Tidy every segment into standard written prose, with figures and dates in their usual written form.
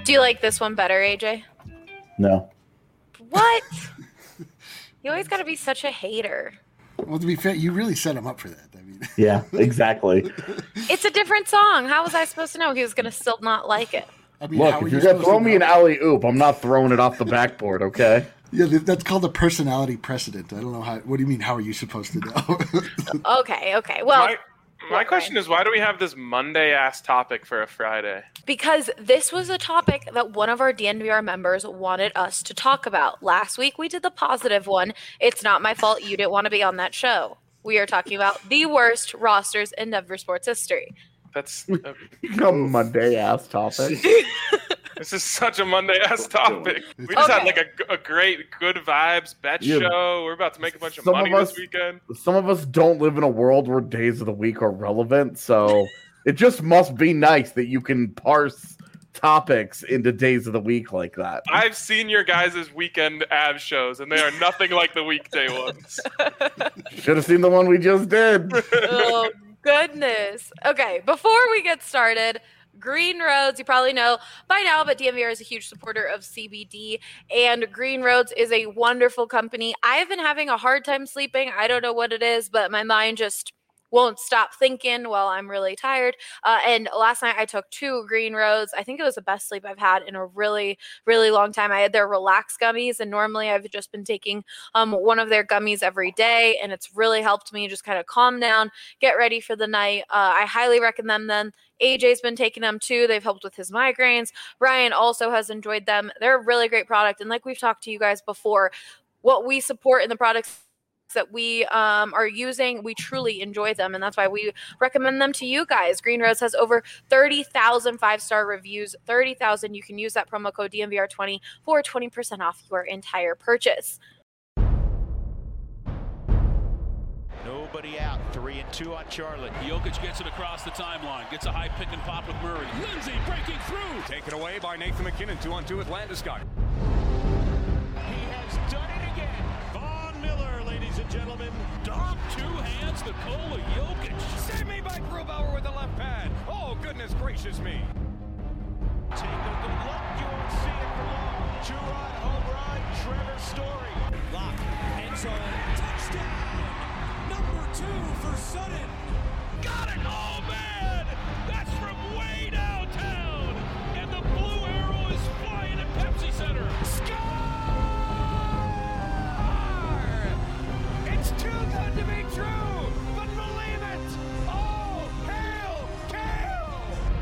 Do you like this one better, AJ? No. What? You always got to be such a hater. Well, to be fair, you really set him up for that. I mean, Yeah, exactly. It's a different song. How was I supposed to know he was going to still not like it? I mean, Look, if you're going to throw me an alley-oop, I'm not throwing it off the backboard, okay? Yeah, that's called a personality precedent. I don't know how. What do you mean? How are you supposed to know? Okay. Well, my question is, why do we have this Monday-ass topic for a Friday? Because this was a topic that one of our DNVR members wanted us to talk about. Last week, we did the positive one. It's not my fault you didn't want to be on that show. We are talking about the worst rosters in Denver sports history. That's a Monday-ass topic. This is such a Monday-ass topic. We just had like a great good vibes bet show. We're about to make a bunch of money this weekend. Some of us don't live in a world where days of the week are relevant, so it just must be nice that you can parse topics into days of the week like that. I've seen your guys' weekend Avs shows, and they are nothing like the weekday ones. Should have seen the one we just did. Oh, goodness. Okay, before we get started, Green Roads, you probably know by now, but DNVR is a huge supporter of CBD, and Green Roads is a wonderful company. I've been having a hard time sleeping. I don't know what it is, but my mind just won't stop thinking while I'm really tired. And last night I took 2 Green Roads. I think it was the best sleep I've had in a really, really long time. I had their Relax gummies, and normally I've just been taking one of their gummies every day, and it's really helped me just kind of calm down, get ready for the night. I highly recommend them. AJ's been taking them too. They've helped with his migraines. Brian also has enjoyed them. They're a really great product. And like we've talked to you guys before, what we support in the products that we are using, we truly enjoy them, and that's why we recommend them to you guys. Green Roads has over 30,000 5-star reviews. 30,000. You can use that promo code DNVR20 for 20% off your entire purchase. Nobody out. 3-2 on Charlotte. Jokic gets it across the timeline. Gets a high pick and pop with Murray. Lindsay breaking through. Taken away by Nathan McKinnon. 2-on-2 with Landeskog. He has done it again. Von Miller, ladies and gentlemen. Dom, 2 hands, Nikola Jokic. Save me by Grubauer with the left pad. Oh, goodness gracious me. Take a good look. You won't see it for long. Two-run home run. Trevor Story. Lock. End zone. Touchdown. Number 2 for Sutton. Got it! Oh, man! That's from way downtown! And the blue arrow is flying at Pepsi Center. Score! It's too good to be true, but believe it! Oh, hail, Kale!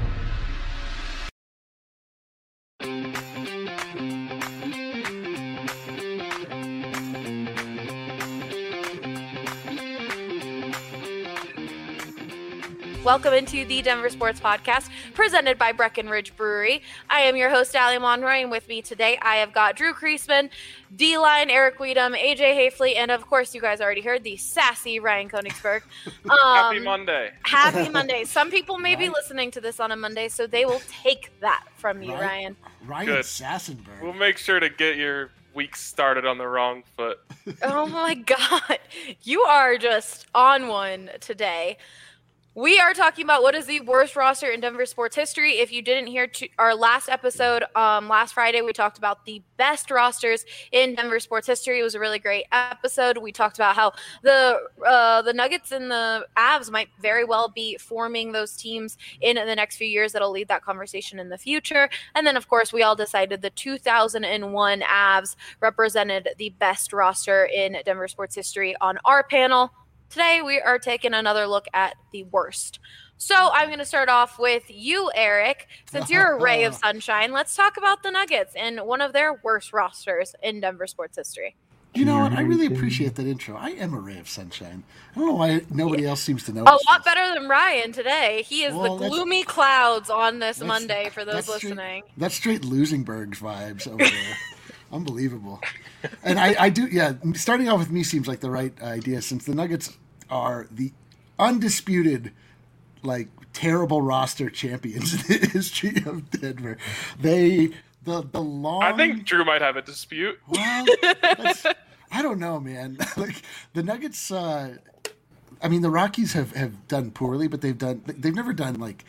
Welcome into the Denver Sports Podcast, presented by Breckenridge Brewery. I am your host, Allie Monroy, and with me today, I have got Drew Kreisman, D-Line, Eric Weedham, AJ Hafley, and of course, you guys already heard the sassy Ryan Koenigsberg. Happy Monday. Happy Monday. Some people may be listening to this on a Monday, so they will take that from you, Ryan. Ryan Good. Sassenberg. We'll make sure to get your week started on the wrong foot. Oh my God. You are just on one today. We are talking about what is the worst roster in Denver sports history. If you didn't hear our last episode, last Friday, we talked about the best rosters in Denver sports history. It was a really great episode. We talked about how the Nuggets and the Avs might very well be forming those teams in the next few years that'll lead that conversation in the future. And then, of course, we all decided the 2001 Avs represented the best roster in Denver sports history on our panel. Today, we are taking another look at the worst. So I'm going to start off with you, Eric. Since you're a ray of sunshine, let's talk about the Nuggets and one of their worst rosters in Denver sports history. You know what? I really appreciate that intro. I am a ray of sunshine. I don't know why nobody else seems to know. A lot better than Ryan today. He is the gloomy clouds on this Monday for those listening. That's straight Losenberg vibes over there. Unbelievable. And I do, starting off with me seems like the right idea, since the Nuggets are the undisputed, terrible roster champions in the history of Denver. The long... I think Drew might have a dispute. Well, I don't know, man. The Nuggets, the Rockies have done poorly, but they've never done,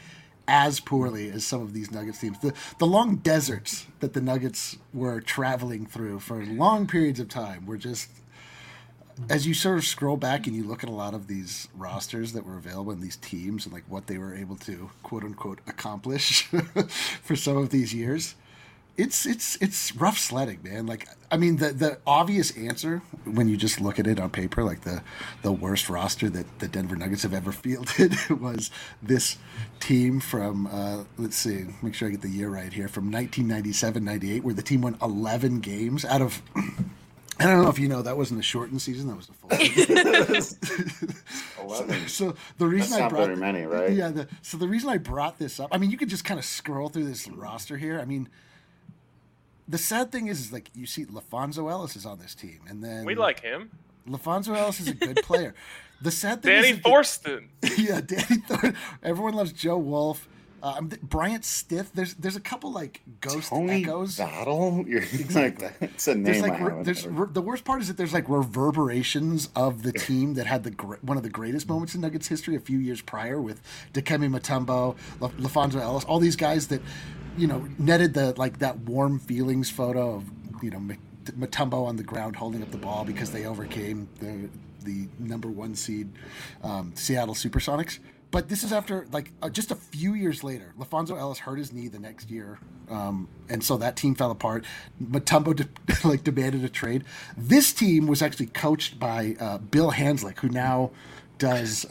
as poorly as some of these Nuggets teams. The long deserts that the Nuggets were traveling through for long periods of time were just, as you sort of scroll back and you look at a lot of these rosters that were available in these teams and like what they were able to quote unquote accomplish for some of these years, it's rough sledding, man. Like, I mean, the obvious answer when you just look at it on paper, like the worst roster that the Denver Nuggets have ever fielded was this team from, let's see, make sure I get the year right here, from 1997-98, where the team won 11 games out of, I don't know if you know, that wasn't a shortened season, that was the full 11. So the reason That's I not brought very many, right? Yeah, so the reason I brought this up, I mean, you could just kind of scroll through this roster here. I mean, the sad thing is like you see LaFonso Ellis is on this team, and then We like him. LaFonso Ellis is a good player. The sad thing Danny is Thornton. yeah, Danny Thornton. Everyone loves Joe Wolf. Bryant Stith. There's a couple like ghost Tony echoes. Battle? You're like, that's a name. There's like I haven't heard. the worst part is that there's like reverberations of the team that had one of the greatest moments in Nuggets history a few years prior with Dikembe Mutombo, LaFonso Ellis, all these guys that, you know, netted that warm feelings photo of, you know, Mutombo on the ground holding up the ball because they overcame the number 1 seed Seattle Supersonics. But this is after just a few years later. LaFonso Ellis hurt his knee the next year, and so that team fell apart. Mutombo demanded a trade. This team was actually coached by Bill Hanslick, who now does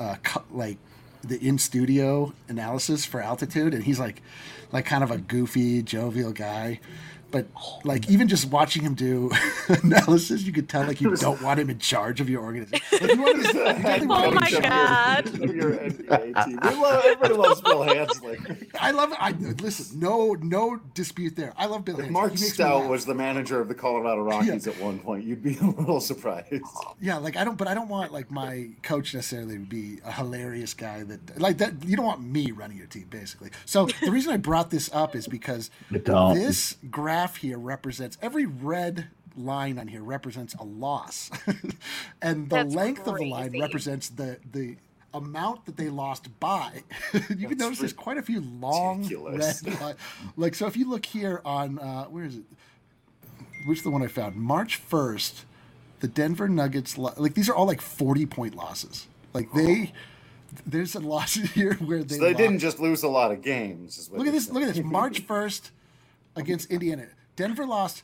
the in-studio analysis for Altitude, and he's like kind of a goofy, jovial guy. But like even just watching him do analysis, you could tell like you don't want him in charge of your organization. Like, Oh my God. Your NBA team. Everybody loves Bill Hanslick. I love it. Listen, no dispute there. I love Bill Hanslick. Mark He makes me Stout laugh. was the manager of the Colorado Rockies at one point. You'd be a little surprised. Yeah, like I don't want like my coach necessarily to be a hilarious guy that like that. You don't want me running your team, basically. So the reason I brought this up is because this graph here represents every red line on here represents a loss, and the That's length of the line crazy. represents the amount that they lost by. You can notice there's quite a few long ridiculous. red lines. Like, so if you look here on where is it? Which is the one I found? March 1st, the Denver Nuggets, like these are all like 40-point losses. Like there's a loss here where they. So they lost. didn't just lose a lot of games. Is what Look at you're this. Look at this. March 1st against Indiana. Denver lost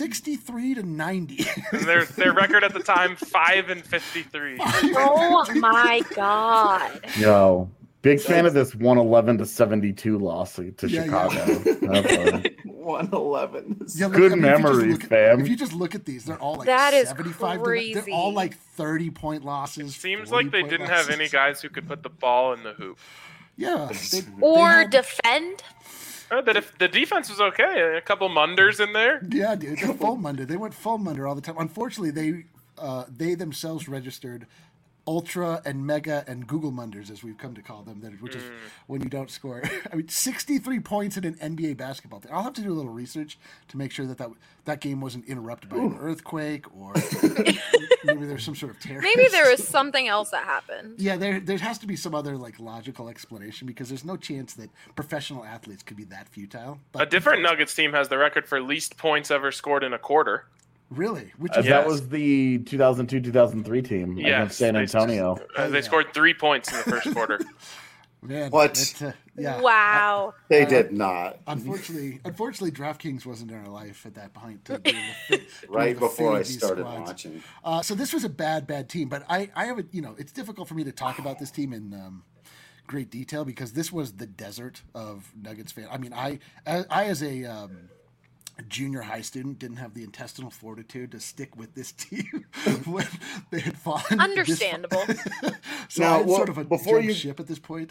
63-90. And their record at the time 5-53. Oh my God. Yo, big fan of this 111-72 loss to Yeah, Chicago. yeah. 111. Yeah, look, Good I mean, memories, fam. If you just look at these, they're all like That is 75. crazy. They're all like 30-point losses. Seems like they 40-point didn't have losses. any guys who could put the ball in the hoop. Yeah. Or had- defend. The defense was okay. A couple Munders in there. Yeah, dude. They're full Munder. They went full Munder all the time. Unfortunately, they themselves registered Ultra and Mega and Google Munders, as we've come to call them, which is when you don't score. I mean, 63 points in an NBA basketball thing. I'll have to do a little research to make sure that game wasn't interrupted by an earthquake or maybe there's some sort of terror. Maybe there was something else that happened. Yeah, there has to be some other like logical explanation because there's no chance that professional athletes could be that futile. A But different Nuggets team has the record for least points ever scored in a quarter. really, which That is Yes. was the 2002-2003 team against San Antonio. They scored 3 points in the first quarter. man, What? that's, yeah. Wow. They did not. Unfortunately, DraftKings wasn't in our life at that point. To be able to Right before I fade these started squads. watching. So this was a bad team, but I have a, it's difficult for me to talk about this team in great detail because this was the desert of Nuggets fan. I mean, I as a junior high student didn't have the intestinal fortitude to stick with this team when they had fallen. Understandable. So Now, I'm sort of a before jump you- ship at this point.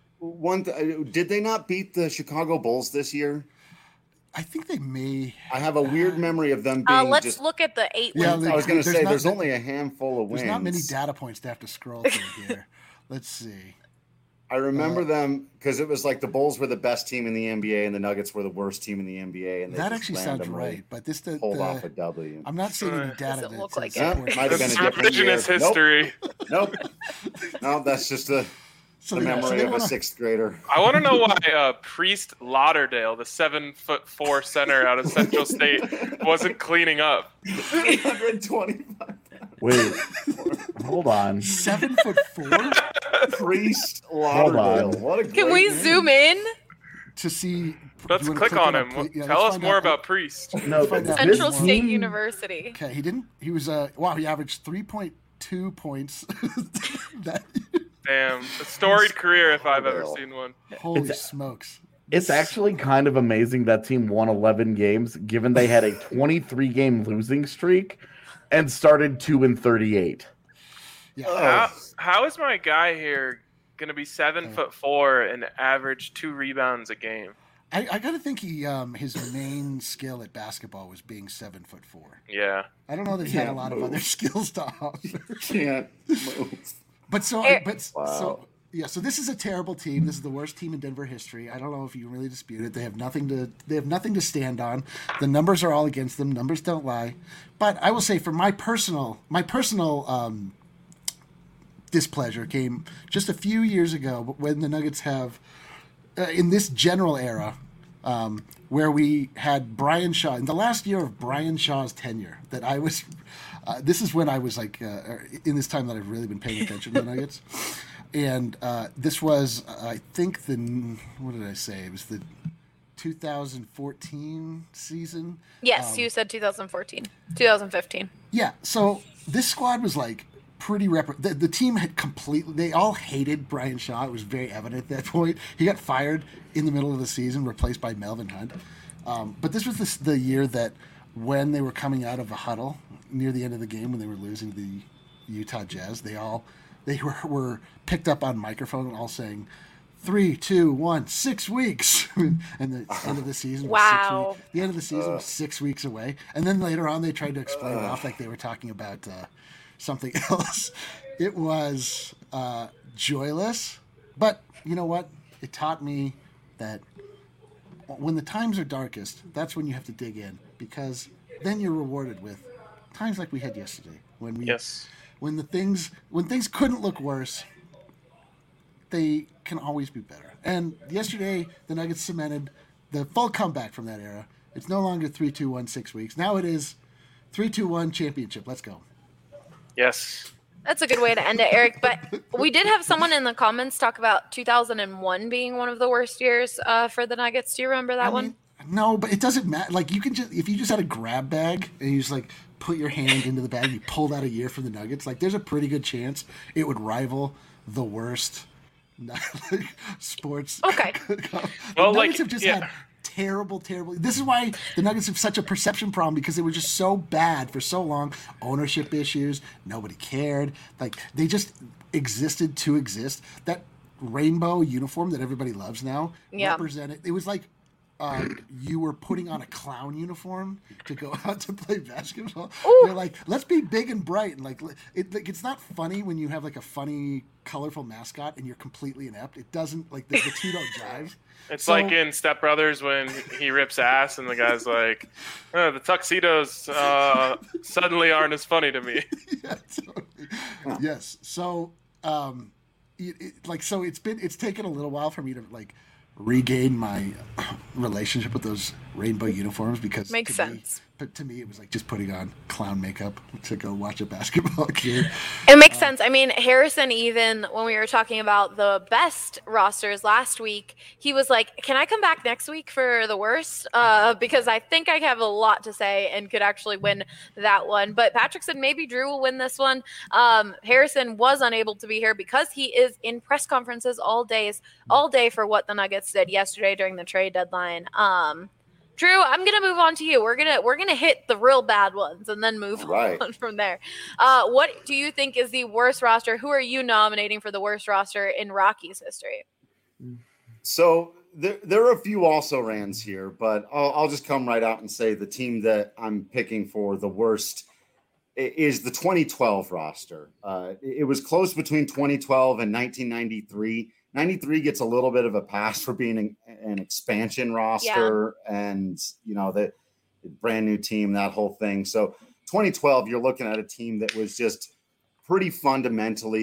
Did they not beat the Chicago Bulls this year? I think they may. I have a weird memory of them being Let's just. look at the 8 Yeah, wins. I was going to There's say not there's many- only a handful of wins. There's not many data points to have to scroll through here. Let's see. I remember them because it was like the Bulls were the best team in the NBA and the Nuggets were the worst team in the NBA, and they That just actually sounds randomly right, but this pulled off a W. I'm not seeing any data Doesn't that look says like it. Yeah, support might have been This a is different year. revisionist history. Nope. No, that's just a. So the memory of a sixth grader. I want to know why Priest Lauderdale, the 7'4" center out of Central State, wasn't cleaning up. 325. Wait, hold on. 7'4"? Priest Lauderdale. What a Can we zoom in? To see. Let's click on him. Tell us more about Priest. No, Central State University. Okay, he was he averaged 3.2 points. Damn, a storied career if I've ever seen one. Holy smokes. It's actually kind of amazing that team won 11 games, given they had a 23-game losing streak and started 2-38. Yeah. How is my guy here going to be 7'4" and average 2 rebounds a game? I gotta think his main skill at basketball was being 7'4". Yeah. I don't know that he had a lot of other skills to offer. Can't move. So this is a terrible team. This is the worst team in Denver history. I don't know if you really dispute it. They have nothing to stand on. The numbers are all against them. Numbers don't lie. But I will say, for my personal displeasure came just a few years ago when the Nuggets have, in this general era, where we had Brian Shaw in the last year of Brian Shaw's tenure. That I was. This is when I was like in this time that I've really been paying attention to the Nuggets, and this was I think what did I say? It was the 2014 season. Yes, you said 2014, 2015. Yeah, so this squad was like pretty the team had completely. They all hated Brian Shaw. It was very evident at that point. He got fired in the middle of the season, replaced by Melvin Hunt. But this was the year that when they were coming out of a huddle near the end of the game when they were losing the Utah Jazz, they were picked up on microphone all saying 3, 2, 1, 6 weeks. And the end of the season was 6 weeks. The end of the season was 6 weeks away. And then later on they tried to explain it off like they were talking about something else. It was joyless, but you know what? It taught me that when the times are darkest, that's when you have to dig in, because then you're rewarded with times like we had yesterday when things couldn't look worse. They can always be better. And yesterday, the Nuggets cemented the full comeback from that era. It's no longer 3-2-1 6 weeks. Now it is 3-2-1 championship. Let's go. Yes. That's a good way to end it, Eric. But we did have someone in the comments talk about 2001 being one of the worst years for the Nuggets. Do you remember that one? No, but it doesn't matter. Like, you can just, if you just had a grab bag and you just like put your hand into the bag, you pulled out a year from the Nuggets, like there's a pretty good chance it would rival the worst sports. Okay. The Nuggets have just had terrible. This is why the Nuggets have such a perception problem, because they were just so bad for so long. Ownership issues. Nobody cared. Like, they just existed to exist. That rainbow uniform that everybody loves now represented. It was like you were putting on a clown uniform to go out to play basketball. Ooh. They're like, let's be big and bright, and like it's not funny when you have like a funny, colorful mascot and you're completely inept. It doesn't, like, the two don't jive. It's like in Step Brothers when he rips ass and the guy's like, the tuxedos suddenly aren't as funny to me. Yeah, totally. Yes. So, it's taken a little while for me to like regain my relationship with those rainbow uniforms, because makes sense. But to me, it was like just putting on clown makeup to go watch a basketball game. It makes sense. I mean, Harrison, even when we were talking about the best rosters last week, he was like, can I come back next week for the worst? Because I think I have a lot to say and could actually win that one. But Patrick said maybe Drew will win this one. Harrison was unable to be here because he is in press conferences all day for what the Nuggets did yesterday during the trade deadline. Drew, I'm gonna move on to you. We're gonna hit the real bad ones and then move on from there. What do you think is the worst roster? Who are you nominating for the worst roster in Rockies history? So there are a few also-rans here, but I'll just come right out and say the team that I'm picking for the worst is the 2012 roster. It was close between 2012 and 1993. 93 gets a little bit of a pass for being an expansion roster and, the brand new team, that whole thing. So 2012, you're looking at a team that was just pretty fundamentally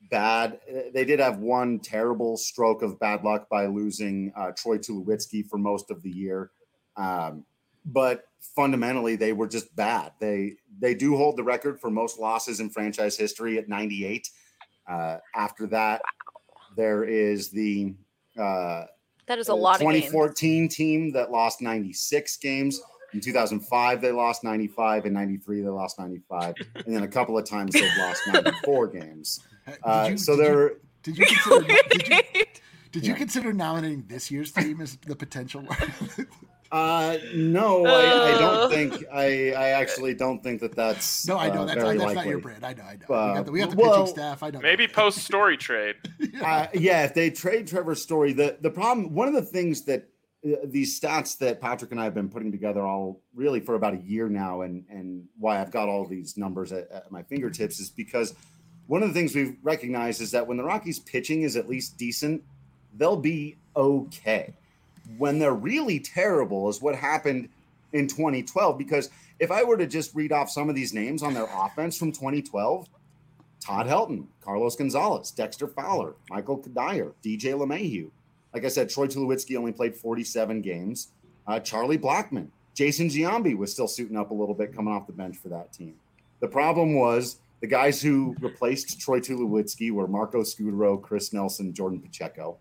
bad. They did have one terrible stroke of bad luck by losing Troy Tulowitzki for most of the year. But fundamentally, they were just bad. They do hold the record for most losses in franchise history at 98. After that, there is the that is a lot 2014 of games. team that lost 96 games. In 2005, they lost 95. In 93, they lost 95. And then a couple of times they've lost 94 games. Did you consider nominating this year's team as the potential one? No, I don't think. I actually don't think that's. No, I know that's not your brand. I know. We got the pitching staff. I know. Maybe post Story trade. If they trade Trevor Story, the problem. One of the things that these stats that Patrick and I have been putting together all really for about a year now, and why I've got all these numbers at my fingertips is because one of the things we've recognized is that when the Rockies pitching is at least decent, they'll be okay. When they're really terrible is what happened in 2012. Because if I were to just read off some of these names on their offense from 2012, Todd Helton, Carlos Gonzalez, Dexter Fowler, Michael Kadire, DJ LeMahieu. Like I said, Troy Tulowitzki only played 47 games. Charlie Blackmon, Jason Giambi was still suiting up a little bit coming off the bench for that team. The problem was the guys who replaced Troy Tulowitzki were Marco Scudero, Chris Nelson, Jordan Pacheco.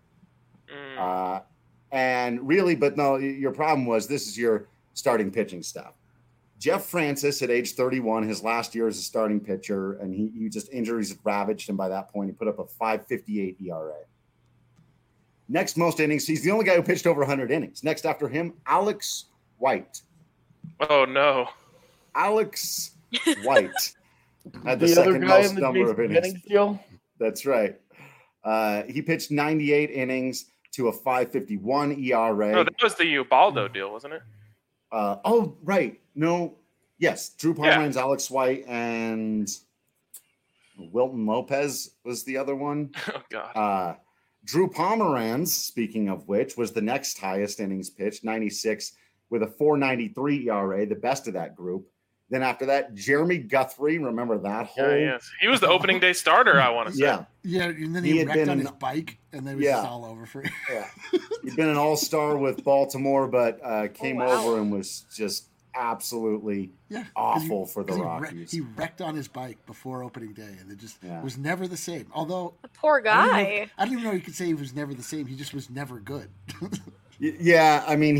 And really, but no, your problem was this is your starting pitching staff. Jeff Francis at age 31, his last year as a starting pitcher, and he just injuries had ravaged him by that point. He put up a 5.58 ERA. Next most innings, he's the only guy who pitched over 100 innings. Next after him, Alex White. Oh, no. Alex White had the second most number of innings. That's right. He pitched 98 innings to a 5.51 ERA. No, that was the Ubaldo deal, wasn't it? Right. No. Yes. Drew Pomeranz, Alex White, and Wilton Lopez was the other one. Oh, God. Drew Pomeranz, speaking of which, was the next highest innings pitched, 96, with a 4.93 ERA, the best of that group. Then after that, Jeremy Guthrie, remember that whole? Yes. He was the opening day starter, I want to say. Yeah, and then he wrecked on his bike, and then it was just all over for him. Yeah. He'd been an all-star with Baltimore, but came over and was just absolutely awful for the Rockies. He wrecked on his bike before opening day, and it just was never the same. Although the poor guy. I don't even know you could say he was never the same. He just was never good. Yeah, I mean,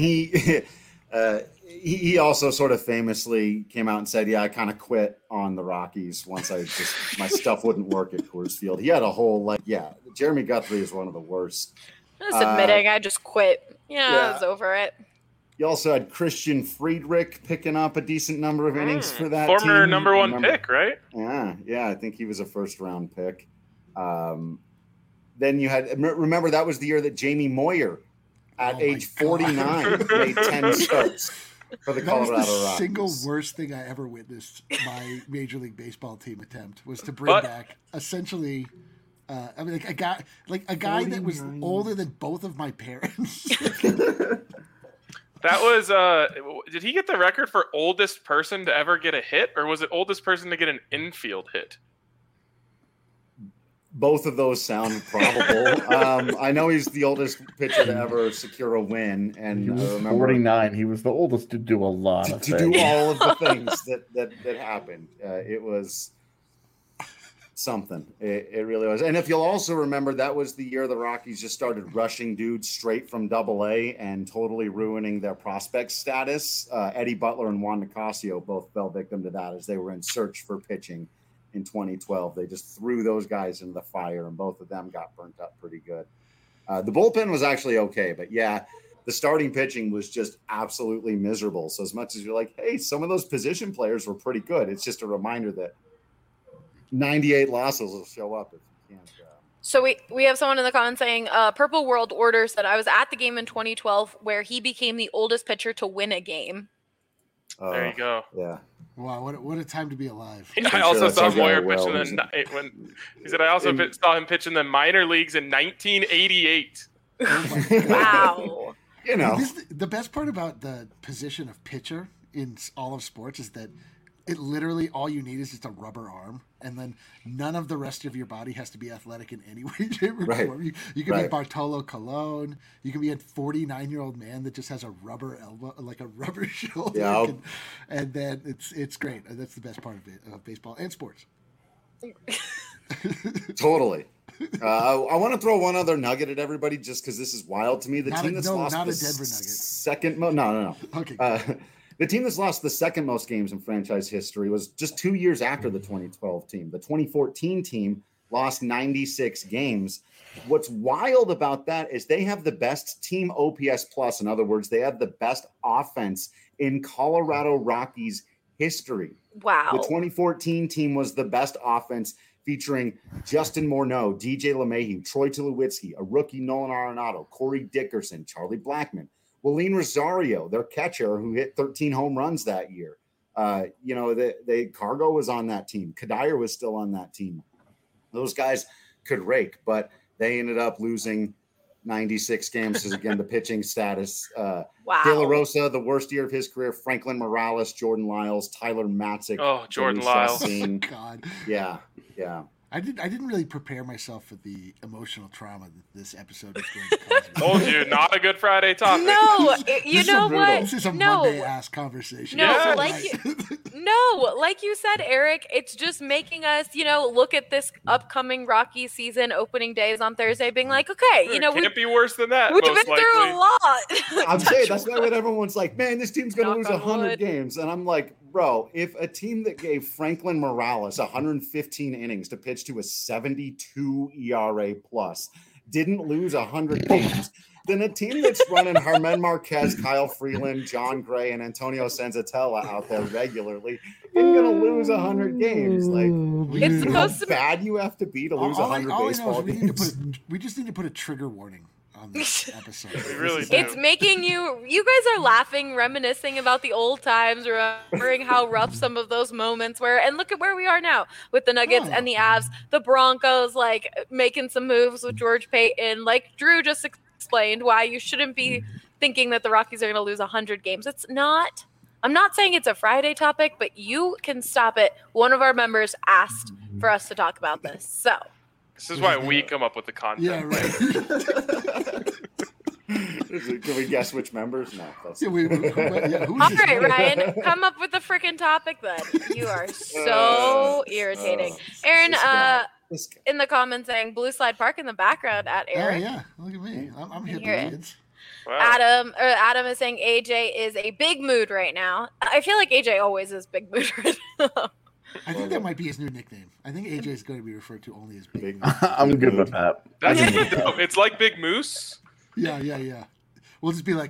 he also sort of famously came out and said, I kind of quit on the Rockies once my stuff wouldn't work at Coors Field. He had a whole, Jeremy Guthrie is one of the worst. Just admitting, I just quit. I was over it. You also had Christian Friedrich picking up a decent number of innings for that former team. number one pick, right? Yeah, I think he was a first-round pick. Then you had, remember, that was the year that Jamie Moyer, at age 49, made 10 starts for the Colorado Rockies. The single worst thing I ever witnessed my Major League Baseball team attempt was to bring back essentially a guy that was older than both of my parents. That was did he get the record for oldest person to ever get a hit, or was it oldest person to get an infield hit? Both of those sound probable. I know he's the oldest pitcher to ever secure a win, and he was 49. He was the oldest to do a lot of things. To do all of the things that happened. It was something. It really was. And if you'll also remember, that was the year the Rockies just started rushing dudes straight from Double-A and totally ruining their prospect status. Eddie Butler and Juan Nicasio both fell victim to that as they were in search for pitching. In 2012, they just threw those guys in the fire, and both of them got burnt up pretty good. The bullpen was actually okay, but the starting pitching was just absolutely miserable. So as much as you're like, hey, some of those position players were pretty good, it's just a reminder that 98 losses will show up if you can't. So we have someone in the comments saying, Purple World Order said, I was at the game in 2012 where he became the oldest pitcher to win a game. There you go. Yeah. Wow, what a time to be alive. I also saw Moyer pitch he said I also saw him pitch in the minor leagues in 1988. Oh wow. The best part about the position of pitcher in all of sports is that it literally all you need is just a rubber arm, and then none of the rest of your body has to be athletic in any way, shape, or form. You can be Bartolo Colon. You can be a 49-year-old man that just has a rubber elbow, like a rubber shoulder. Yep. And then it's great. That's the best part of baseball and sports. Totally. I want to throw one other nugget at everybody just because this is wild to me. The team that's lost not the a Denver Nugget. second most. No. Okay. The team that's lost the second most games in franchise history was just 2 years after the 2012 team. The 2014 team lost 96 games. What's wild about that is they have the best team OPS plus. In other words, they have the best offense in Colorado Rockies history. Wow. The 2014 team was the best offense, featuring Justin Morneau, DJ LeMahieu, Troy Tulowitzki, a rookie Nolan Arenado, Corey Dickerson, Charlie Blackmon, Willeen Rosario, their catcher, who hit 13 home runs that year. Cargo was on that team. Kadire was still on that team. Those guys could rake, but they ended up losing 96 games because, again, the pitching status. Wow. De La Rosa, the worst year of his career. Franklin Morales, Jordan Lyles, Tyler Matzik. Oh, Jordan Lyles. God. Yeah. I didn't really prepare myself for the emotional trauma that this episode is going to cause me. Told you, not a Good Friday topic. No, you know what? This is a Monday-ass conversation. No, Yeah. like you said, Eric, it's just making us, look at this upcoming Rocky season. Opening day is on Thursday, being like, okay, It can't be worse than that. we've most been through likely. a lot. I'm saying that's why when everyone's like, man, this team's going to lose Knock on 100 wood. games. And I'm like, bro, if a team that gave Franklin Morales 115 innings to pitch to a 72 ERA plus didn't lose 100 games, then a team that's running Herman Marquez, Kyle Freeland, John Gray, and Antonio Senzatella out there regularly isn't going to lose 100 games. Like, It's you know how supposed to be- bad you have to be to lose 100 baseball games. We just need to put a trigger warning on this episode. We really do. It's making you guys are laughing, reminiscing about the old times, remembering how rough some of those moments were. And look at where we are now with the Nuggets and the Avs, the Broncos, like making some moves with George Payton. Like Drew just explained why you shouldn't be thinking that the Rockies are going to lose 100 games. It's not. I'm not saying it's a Friday topic, but you can stop it. One of our members asked for us to talk about this. So This is why we come up with the content. Yeah, right. Can we guess which members? No. That's Yeah, who's all this? right, Ryan, come up with a freaking topic then. You are so irritating. Aaron, this guy. in the comments saying Blue Slide Park in the background at Oh, Eric. yeah. Look at me. I'm hitting hear it. kids. Wow. Adam is saying AJ is a big mood right now. I feel like AJ always is big mood right now. I think that might be his new nickname. I think AJ is going to be referred to only as Big. Big Moose. I'm good with that. That's dope. It's like Big Moose. Yeah. We'll just be like,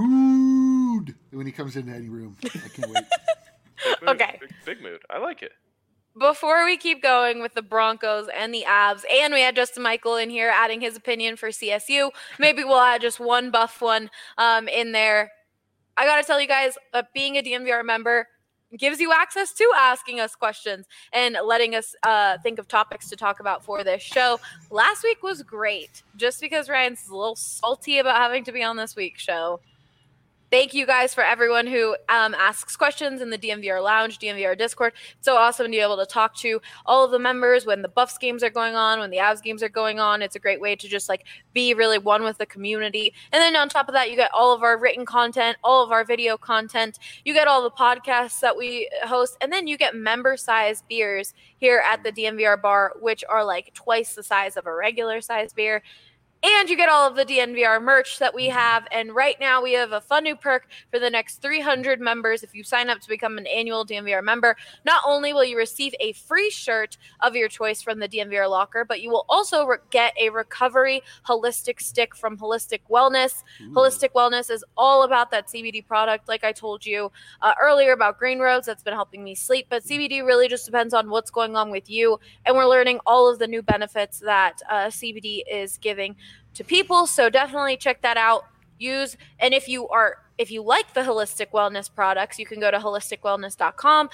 mood, when he comes into any room. I can't wait. Big mood. Okay. Big mood. I like it. Before we keep going with the Broncos and the Avs, and we had Justin Michael in here adding his opinion for CSU, maybe we'll add just one buff one in there. I got to tell you guys that being a DMVR member gives you access to asking us questions and letting us think of topics to talk about for this show. Last week was great, just because Ryan's a little salty about having to be on this week's show. Thank you guys for everyone who asks questions in the DMVR Lounge, DMVR Discord. It's so awesome to be able to talk to all of the members when the Buffs games are going on, when the Avs games are going on. It's a great way to just like be really one with the community. And then on top of that, you get all of our written content, all of our video content. You get all the podcasts that we host, and then you get member-sized beers here at the DMVR bar, which are like twice the size of a regular size beer. And you get all of the DNVR merch that we have. And right now we have a fun new perk for the next 300 members. If you sign up to become an annual DNVR member, not only will you receive a free shirt of your choice from the DNVR locker, but you will also get a recovery holistic stick from Holistic Wellness. Ooh. Holistic Wellness is all about that CBD product. Like I told you earlier about Green Roads, that's been helping me sleep. But CBD really just depends on what's going on with you. And we're learning all of the new benefits that CBD is giving to people, so definitely check that out. And if you like the Holistic Wellness products, you can go to holisticwellness.com,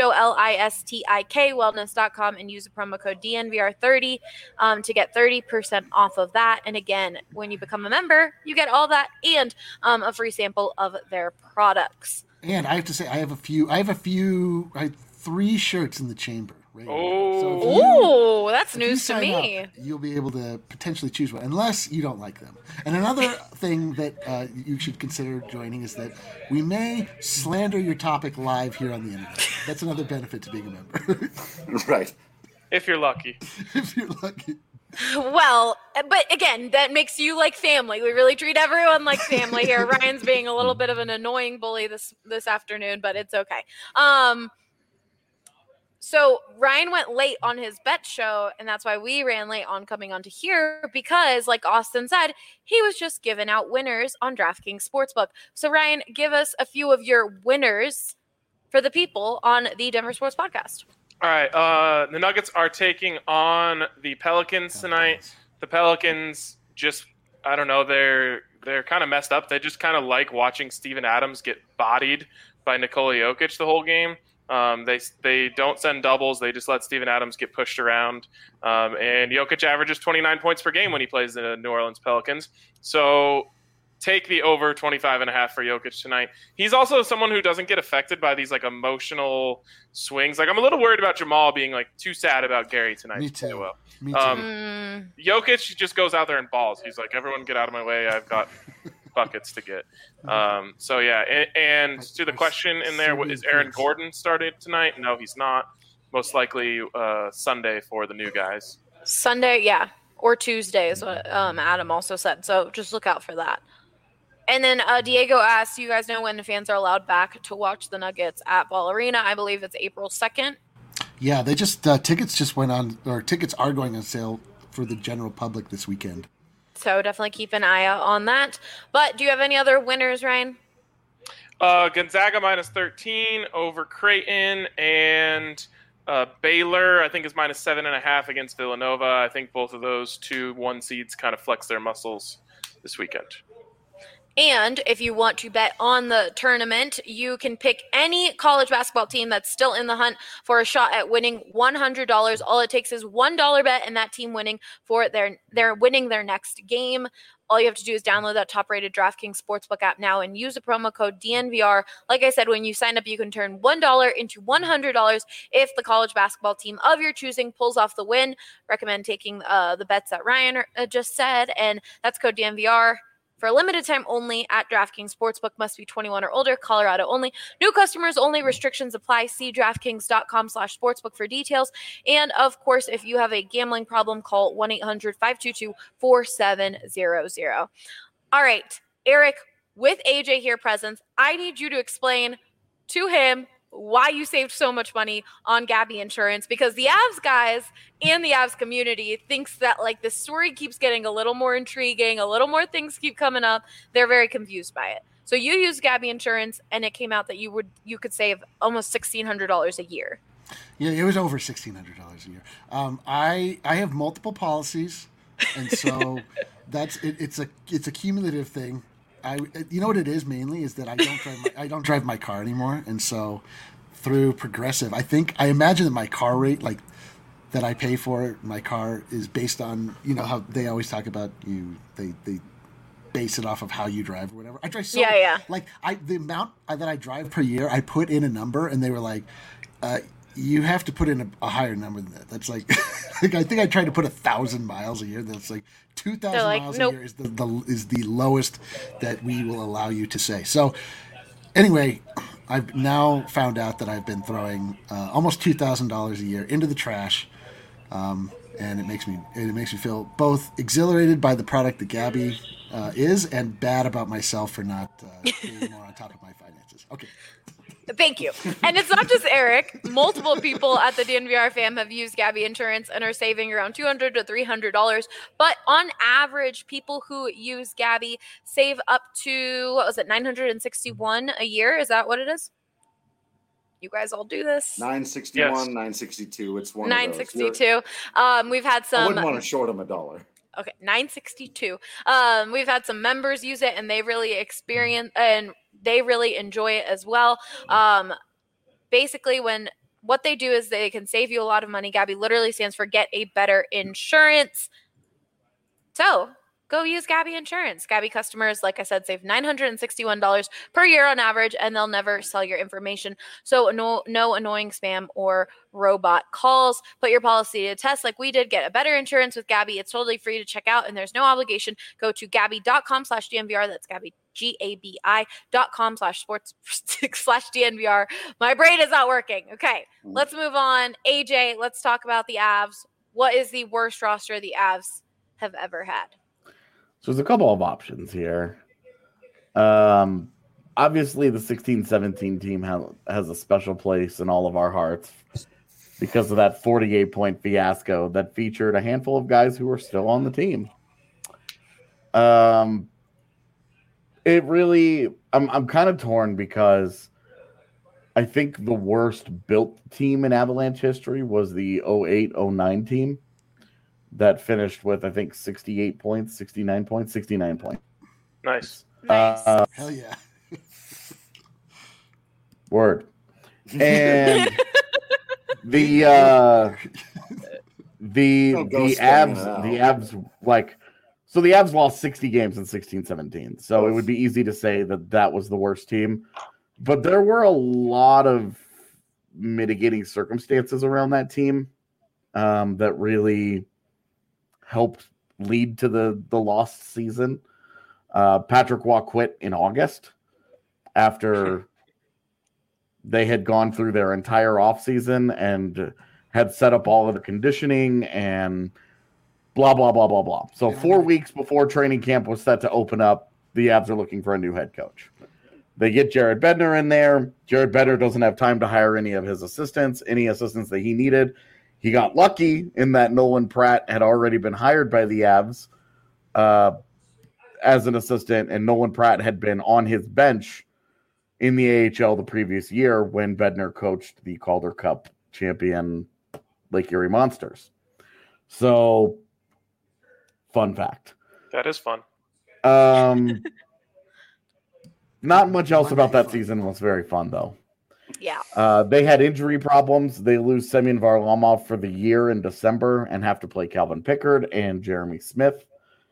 HOLISTIK wellness.com, and use the promo code DNVR30 to get 30% off of that. And again, when you become a member, you get all that and a free sample of their products. And I have to say, I have 3 shirts in the chamber. Right. Oh, that's news to me. You'll be able to potentially choose one, unless you don't like them. And another thing that you should consider joining is that we may slander your topic live here on the internet. That's another benefit to being a member. Right. If you're lucky. If you're lucky. Well, but again, that makes you like family. We really treat everyone like family here. Ryan's being a little bit of an annoying bully this afternoon, but it's okay. So Ryan went late on his bet show, and that's why we ran late on coming onto here because, like Austin said, he was just giving out winners on DraftKings Sportsbook. So Ryan, give us a few of your winners for the people on the Denver Sports Podcast. All right. The Nuggets are taking on the Pelicans tonight. The Pelicans just, I don't know, they're kind of messed up. They just kind of like watching Steven Adams get bodied by Nikola Jokic the whole game. They don't send doubles. They just let Steven Adams get pushed around. And Jokic averages 29 points per game when he plays the New Orleans Pelicans. So take the over 25.5 for Jokic tonight. He's also someone who doesn't get affected by these like emotional swings. Like I'm a little worried about Jamal being like too sad about Gary tonight. Me too. Me too. Jokic just goes out there and balls. He's like, everyone get out of my way. I've got buckets to get. So yeah, and to the question in there, is Aaron Gordon started tonight? No, he's not. Most likely Sunday for the new guys. Sunday, yeah, or Tuesday is what Adam also said. So just look out for that. And then Diego asked, you guys know when the fans are allowed back to watch the Nuggets at Ball Arena? I believe it's April 2nd. Yeah, they just tickets just went on, or tickets are going on sale for the general public this weekend. So definitely keep an eye out on that. But do you have any other winners, Ryan? Gonzaga minus 13 over Creighton, and Baylor, I think, is minus 7.5 against Villanova. I think both of those 2-1 seeds kind of flex their muscles this weekend. And if you want to bet on the tournament, you can pick any college basketball team that's still in the hunt for a shot at winning $100. All it takes is $1 bet and that team winning for they're winning their next game. All you have to do is download that top-rated DraftKings Sportsbook app now and use the promo code DNVR. Like I said, when you sign up, you can turn $1 into $100 if the college basketball team of your choosing pulls off the win. Recommend taking the bets that Ryan just said, and that's code DNVR. For a limited time only at DraftKings Sportsbook. Must be 21 or older. Colorado only. New customers only. Restrictions apply. See DraftKings.com/sportsbook for details. And, of course, if you have a gambling problem, call 1-800-522-4700. All right, Eric, with AJ here present, I need you to explain to him why you saved so much money on Gabby Insurance, because the Avs guys and the Avs community thinks that like the story keeps getting a little more intriguing, a little more things keep coming up. They're very confused by it. So you used Gabby Insurance, and it came out that you could save almost $1,600 a year. Yeah, it was over $1,600 a year. I have multiple policies, and so that's it. It's a cumulative thing. You know what it is mainly is that I don't drive my car anymore, and so through Progressive, I imagine that my car rate, like that I pay for my car, is based on, you know how they always talk about they base it off of how you drive or whatever. I drive so like the amount that I drive per year, I put in a number, and they were like, you have to put in a higher number than that. That's like, I think I tried to put 1,000 miles a year. That's like 2,000 miles a year is the lowest that we will allow you to say. So anyway, I've now found out that I've been throwing almost $2,000 a year into the trash, and it makes me feel both exhilarated by the product that Gabby is, and bad about myself for not being more on top of my finances. Okay. Thank you. And it's not just Eric. Multiple people at the DNVR fam have used Gabby Insurance and are saving around $200 to $300. But on average, people who use Gabby save up to, what was it, $961 a year? Is that what it is? You guys all do this? 961, yes. 962. It's one 962. We've had some. I wouldn't want to short them $1. Okay, 962. We've had some members use it, and they really enjoy it as well. Basically, what they do is they can save you a lot of money. Gabby literally stands for Get a Better Insurance. So go use Gabby Insurance. Gabby customers, like I said, save $961 per year on average, and they'll never sell your information. So no annoying spam or robot calls. Put your policy to test like we did. Get a better insurance with Gabby. It's totally free to check out, and there's no obligation. Go to Gabby.com/DNVR. That's Gabby, GABI.com/sports/DNVR. My brain is not working. Okay, let's move on. AJ, let's talk about the Avs. What is the worst roster the Avs have ever had? So there's a couple of options here. Obviously, the 16-17 team has a special place in all of our hearts because of that 48-point fiasco that featured a handful of guys who are still on the team. It really, I'm kind of torn because I think the worst built team in Avalanche history was the 08-09 team that finished with, I think, 69 points. Nice. Hell yeah. Word. And the Avs, like, so the Avs lost 60 games in 16-17. So it would be easy to say that was the worst team. But there were a lot of mitigating circumstances around that team that really helped lead to the lost season. Patrick Waugh quit in August after they had gone through their entire offseason and had set up all of the conditioning and blah, blah, blah, blah, blah. So 4 weeks before training camp was set to open up, the Avs are looking for a new head coach. They get Jared Bednar in there. Jared Bednar doesn't have time to hire any of his assistants, any assistants that he needed. He got lucky in that Nolan Pratt had already been hired by the Avs as an assistant, and Nolan Pratt had been on his bench in the AHL the previous year when Bednar coached the Calder Cup champion Lake Erie Monsters. So, fun fact. That is fun. Not much else about that season was very fun, though. Yeah. They had injury problems. They lose Semyon Varlamov for the year in December and have to play Calvin Pickard and Jeremy Smith.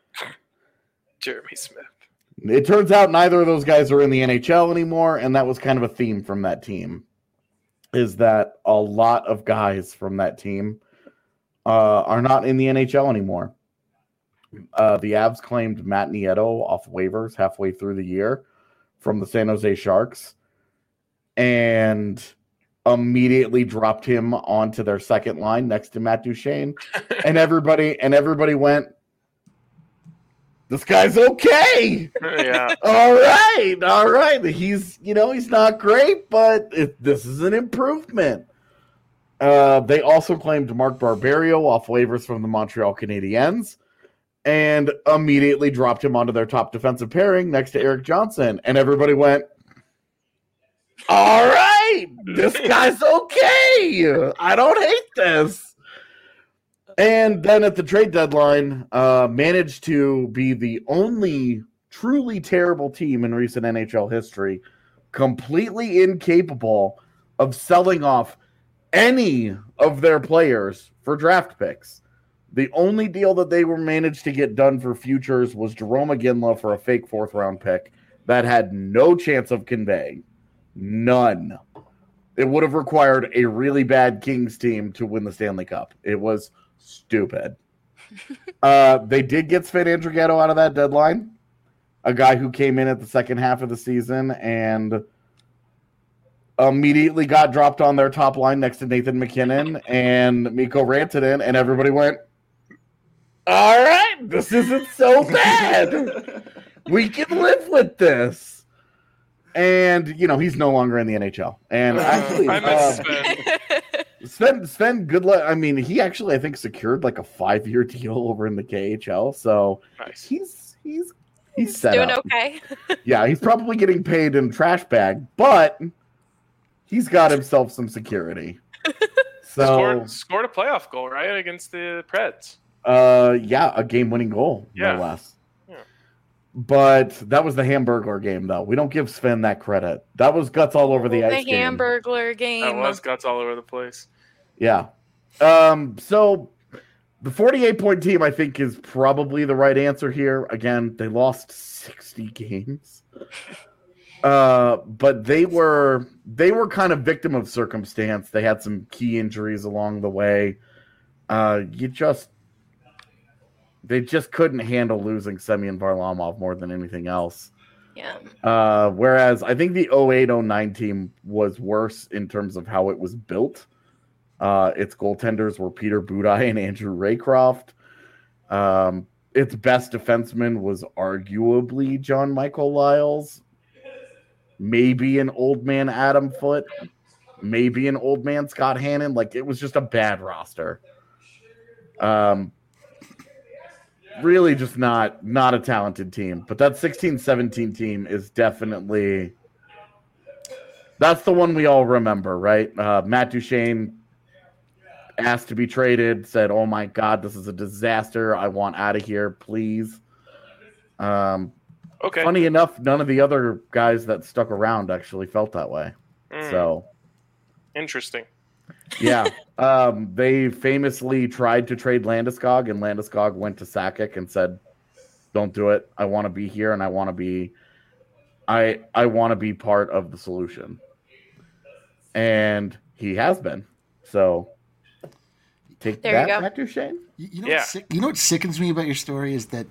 Jeremy Smith. It turns out neither of those guys are in the NHL anymore, and that was kind of a theme from that team, is that a lot of guys from that team are not in the NHL anymore. The Avs claimed Matt Nieto off waivers halfway through the year from the San Jose Sharks and immediately dropped him onto their second line next to Matt Duchene. and everybody went, this guy's okay. Yeah. All right. He's not great, but this is an improvement. They also claimed Mark Barberio off waivers from the Montreal Canadiens and immediately dropped him onto their top defensive pairing next to Eric Johnson. And everybody went, all right, this guy's okay. I don't hate this. And then at the trade deadline, managed to be the only truly terrible team in recent NHL history, completely incapable of selling off any of their players for draft picks. The only deal that they were managed to get done for futures was Jerome Iginla for a fake fourth-round pick that had no chance of conveying. None. It would have required a really bad Kings team to win the Stanley Cup. It was stupid. They did get Sven Andrighetto out of that deadline, a guy who came in at the second half of the season and immediately got dropped on their top line next to Nathan McKinnon and Mikko Rantanen, and everybody went, all right, this isn't so bad. We can live with this. And, he's no longer in the NHL. And actually, I miss Sven. Sven, good luck. I mean, he actually, I think, secured like a 5-year deal over in the KHL. So nice. He's set doing up. Okay. Yeah, he's probably getting paid in trash bag, but he's got himself some security. So scored a playoff goal, right, against the Preds. Yeah, a game-winning goal, no less. Yeah. But that was the Hamburglar game, though. We don't give Sven that credit. That was guts all over the ice. The Hamburglar game. That was guts all over the place. Yeah. So The 48-point team, I think, is probably the right answer here. Again, they lost 60 games. But they were kind of victim of circumstance. They had some key injuries along the way. They just couldn't handle losing Semyon Varlamov more than anything else. Yeah. Whereas I think the 08-09 team was worse in terms of how it was built. Its goaltenders were Peter Budaj and Andrew Raycroft. Its best defenseman was arguably John Michael Lyles. Maybe an old man Adam Foote. Maybe an old man Scott Hannon. Like, it was just a bad roster. Really just not a talented team. But that 16-17 team is definitely... That's the one we all remember, right? Matt Duchene asked to be traded, said, "Oh my God, this is a disaster. I want out of here, please." Okay. Funny enough, none of the other guys that stuck around actually felt that way. So interesting. Yeah. They famously tried to trade Landeskog, and Landeskog went to Sakic and said, "Don't do it. I want to be here, and I want to be part of the solution." And he has been. So take There you that, go. Matt Duchene. You know what sickens me about your story is that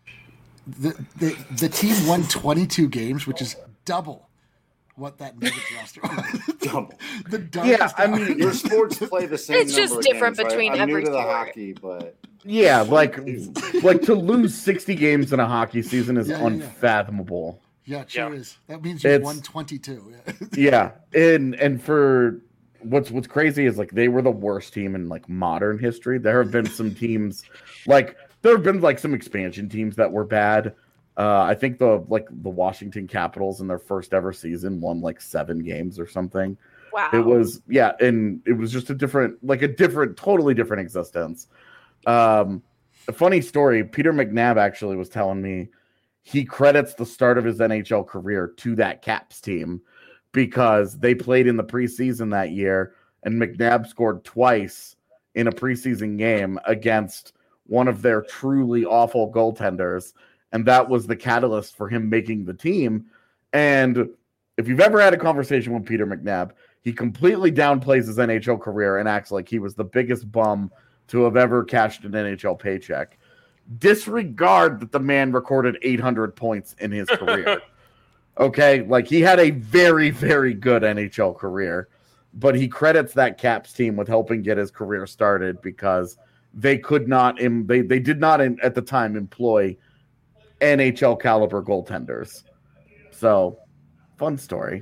the team won 22 games, which is double what that Nuggets roster was. Double. The darkest I mean, Your sports play the same. It's just number of different games, right? between I'm every new to the sport. hockey, but Yeah, like to lose 60 games in a hockey season is Yeah. unfathomable. Yeah, it sure Yeah. is. That means you won 22. Yeah, and for what's crazy is like they were the worst team in like modern history. There have been some teams like some expansion teams that were bad. I think the Washington Capitals in their first ever season won like 7 games or something. Wow. It was and it was just a totally different existence. A funny story, Peter McNabb actually was telling me he credits the start of his NHL career to that Caps team because they played in the preseason that year and McNabb scored twice in a preseason game against one of their truly awful goaltenders. And that was the catalyst for him making the team. And if you've ever had a conversation with Peter McNabb, he completely downplays his NHL career and acts like he was the biggest bum to have ever cashed an NHL paycheck. Disregard that the man recorded 800 points in his career. Okay? Like, he had a very, very good NHL career, but he credits that Caps team with helping get his career started because they could not, they did not at the time employ NHL caliber goaltenders. So, fun story.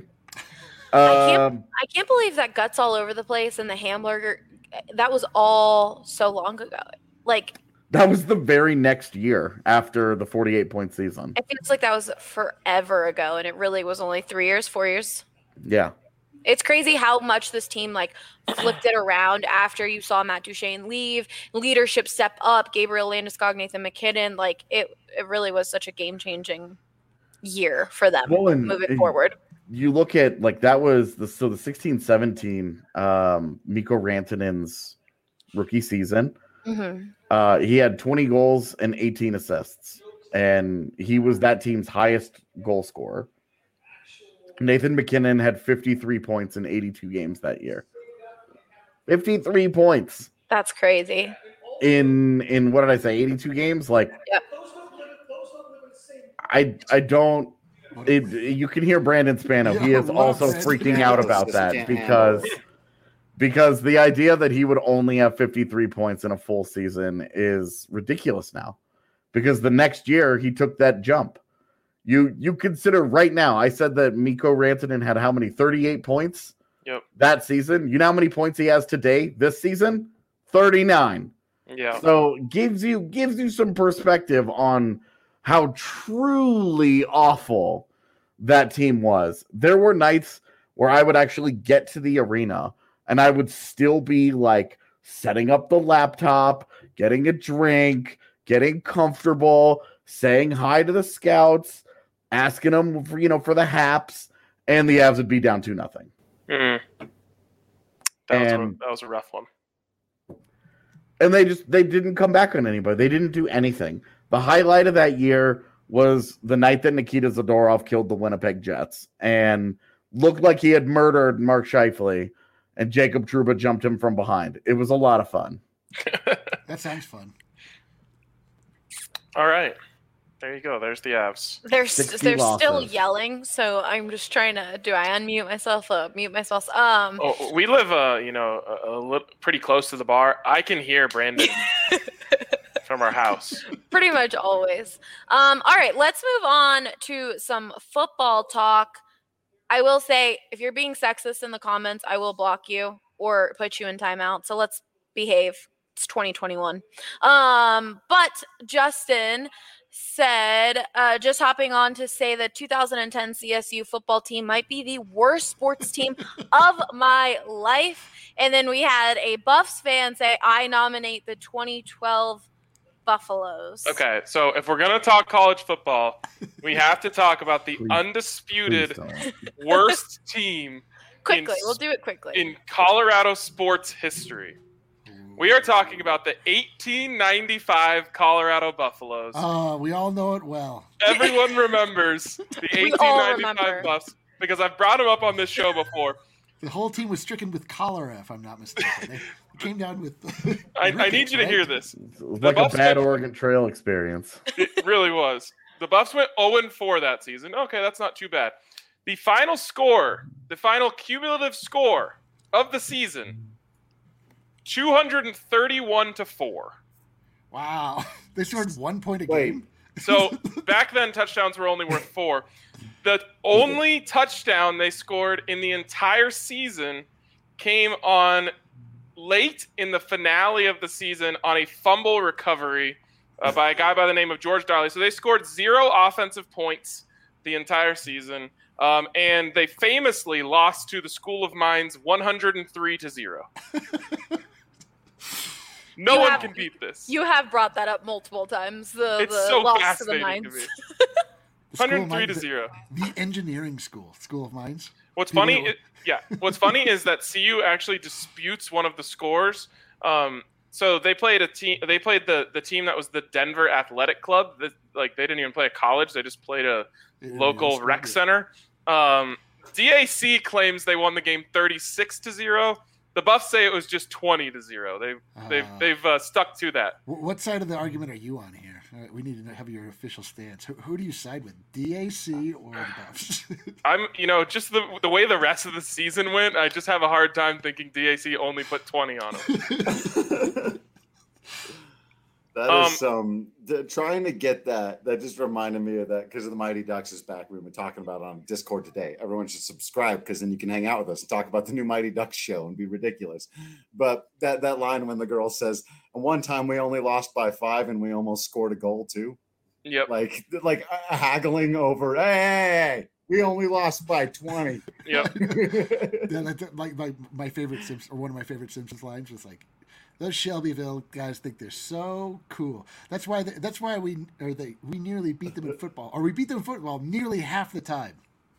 I can't believe that Guts all over the place and the hamburger. That was all so long ago. Like, that was the very next year after the 48-point season. it feels like that was forever ago, and it really was only 3 years, 4 years. Yeah. It's crazy how much this team like flipped it around after you saw Matt Duchene leave, leadership step up, Gabriel Landeskog, Nathan McKinnon. Like it really was such a game-changing year for them moving forward. You look at like that was the 16-17 Mikko Rantanen's rookie season. Mm-hmm. He had 20 goals and 18 assists, and he was that team's highest goal scorer. Nathan McKinnon had 53 points in 82 games that year. 53 points. That's crazy. In what did I say? 82 games? Like, yep. I don't. You can hear Brandon Spano. He is also freaking out about that because the idea that he would only have 53 points in a full season is ridiculous now. Because the next year he took that jump. You consider right now, I said that Mikko Rantanen had how many? 38 points that season. You know how many points he has today, this season? 39. Yeah. So gives you some perspective on how truly awful that team was. There were nights where I would actually get to the arena and I would still be like setting up the laptop, getting a drink, getting comfortable, saying hi to the scouts, asking them for the haps, and the Avs would be down 2-0. That was a rough one. And they didn't come back on anybody. They didn't do anything. The highlight of that year was the night that Nikita Zadorov killed the Winnipeg Jets and looked like he had murdered Mark Scheifele, and Jacob Trouba jumped him from behind. It was a lot of fun. That sounds fun. All right. There you go. There's the Avs. They're 60 still losses. yelling, so I'm just trying to. Do I unmute myself? Mute myself. Oh, we live, pretty close to the bar. I can hear Brandon from our house. Pretty much always. All right, let's move on to some football talk. I will say, if you're being sexist in the comments, I will block you or put you in timeout. So let's behave. It's 2021. But Justin said, just hopping on to say that 2010 CSU football team might be the worst sports team of my life. And then we had a Buffs fan say, I nominate the 2012 Buffaloes. Okay, so if we're going to talk college football, we have to talk about the Please undisputed don't. worst team Quickly, we'll do it quickly. in Colorado sports history. We are talking about the 1895 Colorado Buffaloes. Oh, we all know it well. Everyone remembers the We all 1895 remember. Buffs because I've brought them up on this show before. The whole team was stricken with cholera, if I'm not mistaken. They came down with. I need you to hear this. It was like a Buffs bad went- Oregon Trail experience. It really was. The Buffs went 0-4 that season. Okay, that's not too bad. The final score, the final cumulative score of the season, 231-4. Wow, they scored 1 point a Wait. game. So back then, touchdowns were only worth 4. The only touchdown they scored in the entire season came on late in the finale of the season on a fumble recovery by a guy by the name of George Darley. So they scored 0 offensive points the entire season, and they famously lost to the School of Mines 103-0. No You one have- can beat this. You have brought that up multiple times. It's the so loss to the fascinating to Mines. me. The School of 103-0. The engineering school of mines. What's People funny, know- What's funny is that CU actually disputes one of the scores. So they played a team. They played the team that was the Denver Athletic Club. They didn't even play a college. They just played a local rec center. DAC claims they won the game 36-0. The Buffs say it was just 20-0. They've stuck to that. What side of the argument are you on here? We need to have your official stance. Who do you side with, DAC or the Buffs? I'm, just the way the rest of the season went, I just have a hard time thinking DAC only put 20 on them. That is trying to get that. That just reminded me of that because of the Mighty Ducks is back. We've been talking about it on Discord today. Everyone should subscribe because then you can hang out with us and talk about the new Mighty Ducks show and be ridiculous. But that line when the girl says, "And one time we only lost by 5 and we almost scored a goal too." Yep. Like haggling over. Hey, we only lost by 20. Yep. Yeah, that's like my favorite Simpsons, or one of my favorite Simpsons lines was like, "Those Shelbyville guys think they're so cool. That's why we nearly beat them in football, or we beat them in football nearly half the time."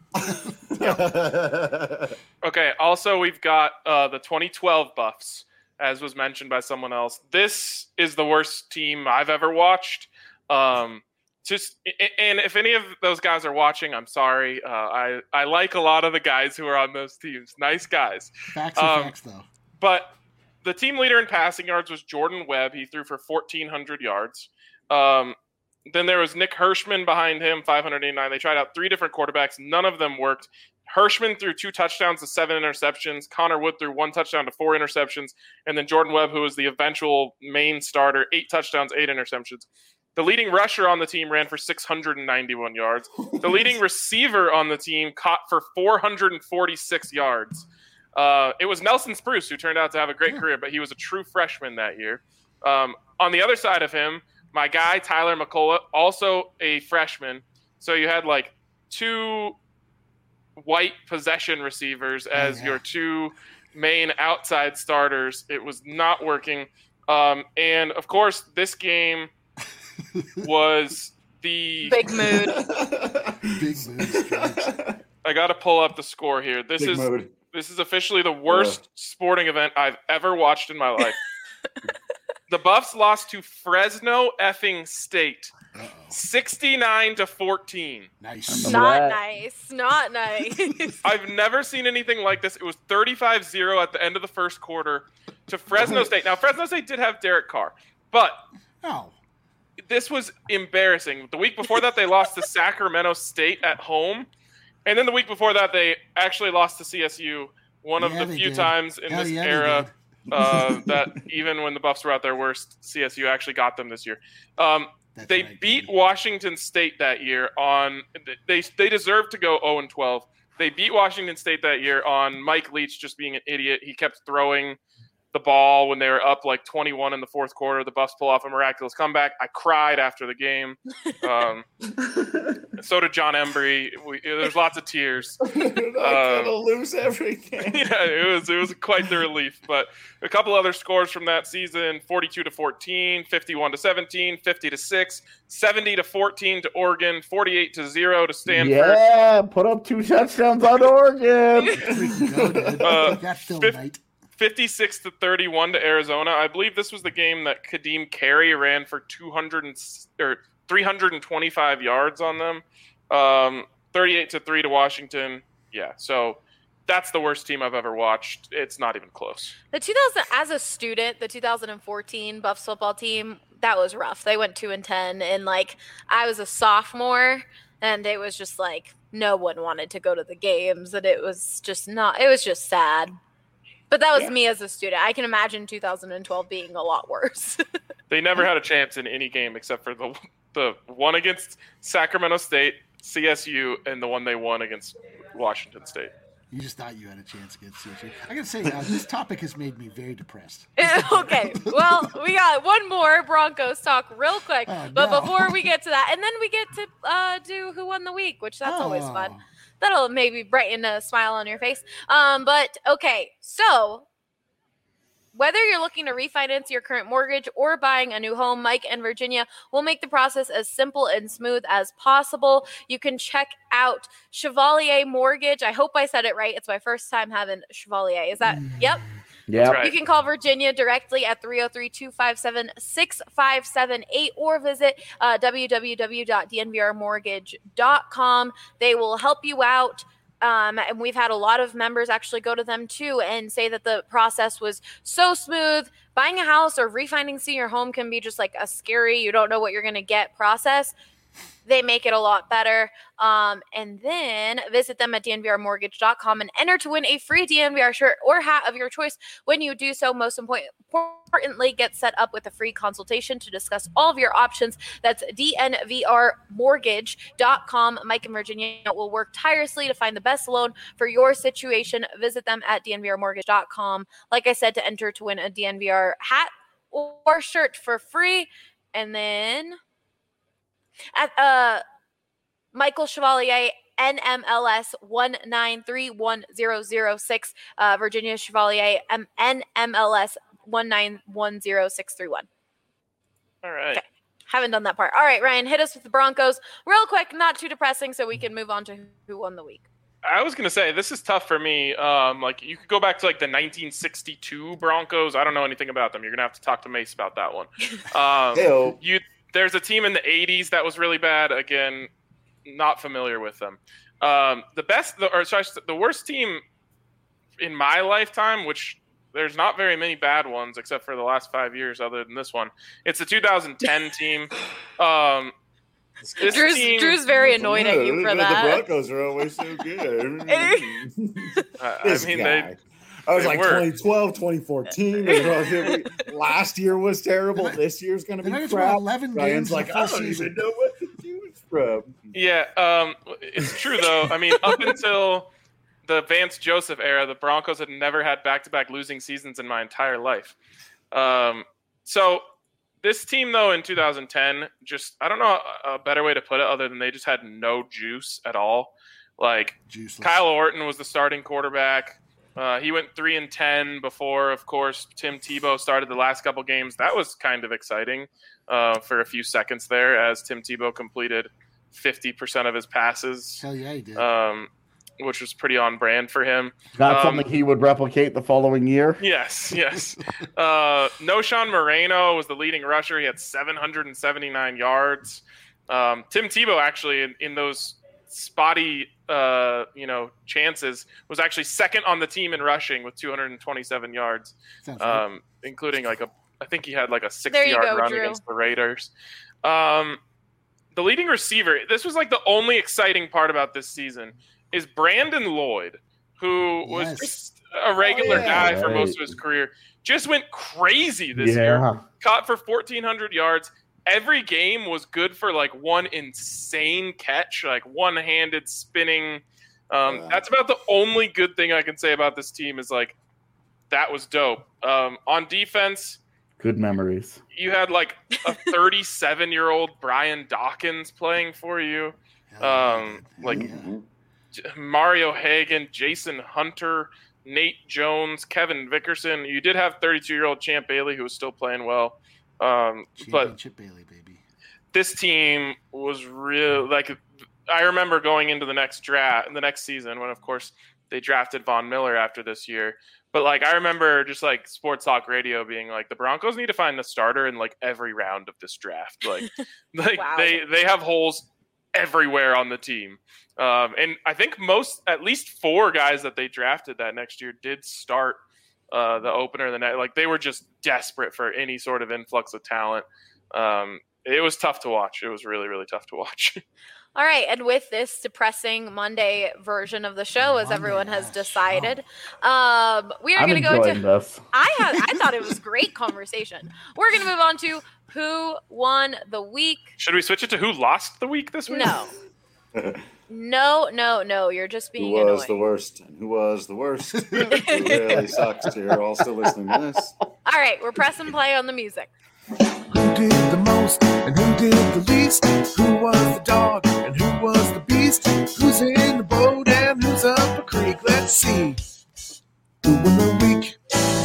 Okay. Also, we've got the 2012 Buffs, as was mentioned by someone else. This is the worst team I've ever watched. And if any of those guys are watching, I'm sorry. I like a lot of the guys who are on those teams. Nice guys. Facts are facts, though. But the team leader in passing yards was Jordan Webb. He threw for 1,400 yards. Then there was Nick Hirschman behind him, 589. They tried out 3 different quarterbacks. None of them worked. Hirschman threw 2 touchdowns to 7 interceptions. Connor Wood threw 1 touchdown to 4 interceptions. And then Jordan Webb, who was the eventual main starter, 8 touchdowns, 8 interceptions. The leading rusher on the team ran for 691 yards. The leading receiver on the team caught for 446 yards. It was Nelson Spruce, who turned out to have a great career, but he was a true freshman that year. On the other side of him, my guy, Tyler McCullough, also a freshman. So you had like 2 white possession receivers as your 2 main outside starters. It was not working. And, of course, this game was the Big mood. Big mood strikes. I got to pull up the score here. This is officially the worst sporting event I've ever watched in my life. The Buffs lost to Fresno effing State, 69-14. Nice. Not nice. Not nice. I've never seen anything like this. It was 35-0 at the end of the first quarter to Fresno State. Now, Fresno State did have Derek Carr, but this was embarrassing. The week before that, they lost to Sacramento State at home. And then the week before that, they actually lost to CSU, one of the few times in this era that even when the Buffs were at their worst, CSU actually got them this year. They beat Washington State that year on – they deserved to go 0-12. They beat Washington State that year on Mike Leach just being an idiot. He kept throwing the ball when they were up like 21 in the fourth quarter. The Buffs pull off a miraculous comeback. I cried after the game. So did John Embry. There's lots of tears. Gonna lose everything. Yeah, it was quite the relief. But a couple other scores from that season: 42-14, 51-17, 50-6, 70-14 to Oregon, 48-0 to Stanford. Yeah, put up 2 touchdowns on Oregon. That's still right. 56-31 to Arizona. I believe this was the game that Kadeem Carey ran for 325 yards on them. 38-3 to Washington. Yeah, so that's the worst team I've ever watched. It's not even close. As a student, the 2014 Buffs football team, that was rough. They went 2-10, and like I was a sophomore, and it was just like no one wanted to go to the games, and it was just sad. But that was me as a student. I can imagine 2012 being a lot worse. They never had a chance in any game except for the one against Sacramento State, CSU, and the one they won against Washington State. You just thought you had a chance against CSU. I gotta say, this topic has made me very depressed. Okay, well, we got one more Broncos talk real quick. But before we get to that, and then we get to do Who Won the Week, which that's always fun. That'll maybe brighten a smile on your face. But okay, so whether you're looking to refinance your current mortgage or buying a new home, Mike and Virginia will make the process as simple and smooth as possible. You can check out Chevalier Mortgage. I hope I said it right. It's my first time having Chevalier. Is that? Yep. Yeah. Right. You can call Virginia directly at 303-257-6578 or visit www.dnvrmortgage.com. They will help you out. And we've had a lot of members actually go to them too and say that the process was so smooth. Buying a house or refinancing your home can be just like a scary, you don't know what you're going to get process. They make it a lot better. And then visit them at dnvrmortgage.com and enter to win a free DNVR shirt or hat of your choice. When you do so, most importantly, get set up with a free consultation to discuss all of your options. That's dnvrmortgage.com. Mike and Virginia will work tirelessly to find the best loan for your situation. Visit them at dnvrmortgage.com. Like I said, to enter to win a DNVR hat or shirt for free. And then at Michael Chevalier, NMLS 1931006, Virginia Chevalier, NMLS 1910631. All right. Okay. Haven't done that part. All right, Ryan, hit us with the Broncos real quick, not too depressing, so we can move on to Who Won the Week. I was going to say, this is tough for me. Like, you could go back to, like, the 1962 Broncos. I don't know anything about them. You're going to have to talk to Mace about that one. There's a team in the 80s that was really bad. Again, not familiar with them. The worst team in my lifetime, which there's not very many bad ones except for the last 5 years other than this one. It's the 2010 team. Drew's very annoyed at you for that. The Broncos are always so good. I was like were. 2012, 2014. Last year was terrible. This year's going to be crap. 11 Ryan's games like, I don't even know what to choose from. Yeah, it's true, though. I mean, up until the Vance Joseph era, the Broncos had never had back-to-back losing seasons in my entire life. So this team, though, in 2010, just, I don't know a better way to put it other than they just had no juice at all. Like, Juiceless. Kyle Orton was the starting quarterback. He went 3-10 before, of course, Tim Tebow started the last couple games. That was kind of exciting for a few seconds there as Tim Tebow completed 50% of his passes. Hell yeah, he did. which was pretty on brand for him. Not something he would replicate the following year. Yes. Noshawn Moreno was the leading rusher. He had 779 yards. Tim Tebow actually in those spotty chances was actually second on the team in rushing with 227 yards, including I think he had like a 60-yard run against the Raiders. The leading receiver, this was like the only exciting part about this season, is Brandon Lloyd, who was just a regular guy for most of his career. Just went crazy this year. Caught for 1,400 yards. Every game was good for like one insane catch, like one-handed spinning. That's about the only good thing I can say about this team is like that was dope. On defense, good memories. You had like a 37-year-old Brian Dawkins playing for you. Mario Hagan, Jason Hunter, Nate Jones, Kevin Vickerson. You did have 32-year-old Champ Bailey who was still playing well. But Bailey, baby. This team was real. Like I remember going into the next season when, of course, they drafted Von Miller after this year. But like I remember just like Sports Talk Radio being like the Broncos need to find the starter in like every round of this draft. Like wow. they have holes everywhere on the team. And I think at least 4 guys that they drafted that next year did start the opener the night. Like they were just desperate for any sort of influx of talent. It was tough to watch. It was really, really tough to watch. All right, and with this depressing Monday version of the show, as everyone has decided, we are going to go into this. I thought it was great conversation. We're going to move on to who won the week. Should we switch it to who lost the week this week? No. You're just being annoying. Who was annoying. the worst? And who was the worst? Who really sucks? You're all still listening to this. All right, we're pressing play on the music. Who did the most and who did the least? Who was the dog and who was the beast? Who's in the boat and who's up a creek? Let's see. Who won the week?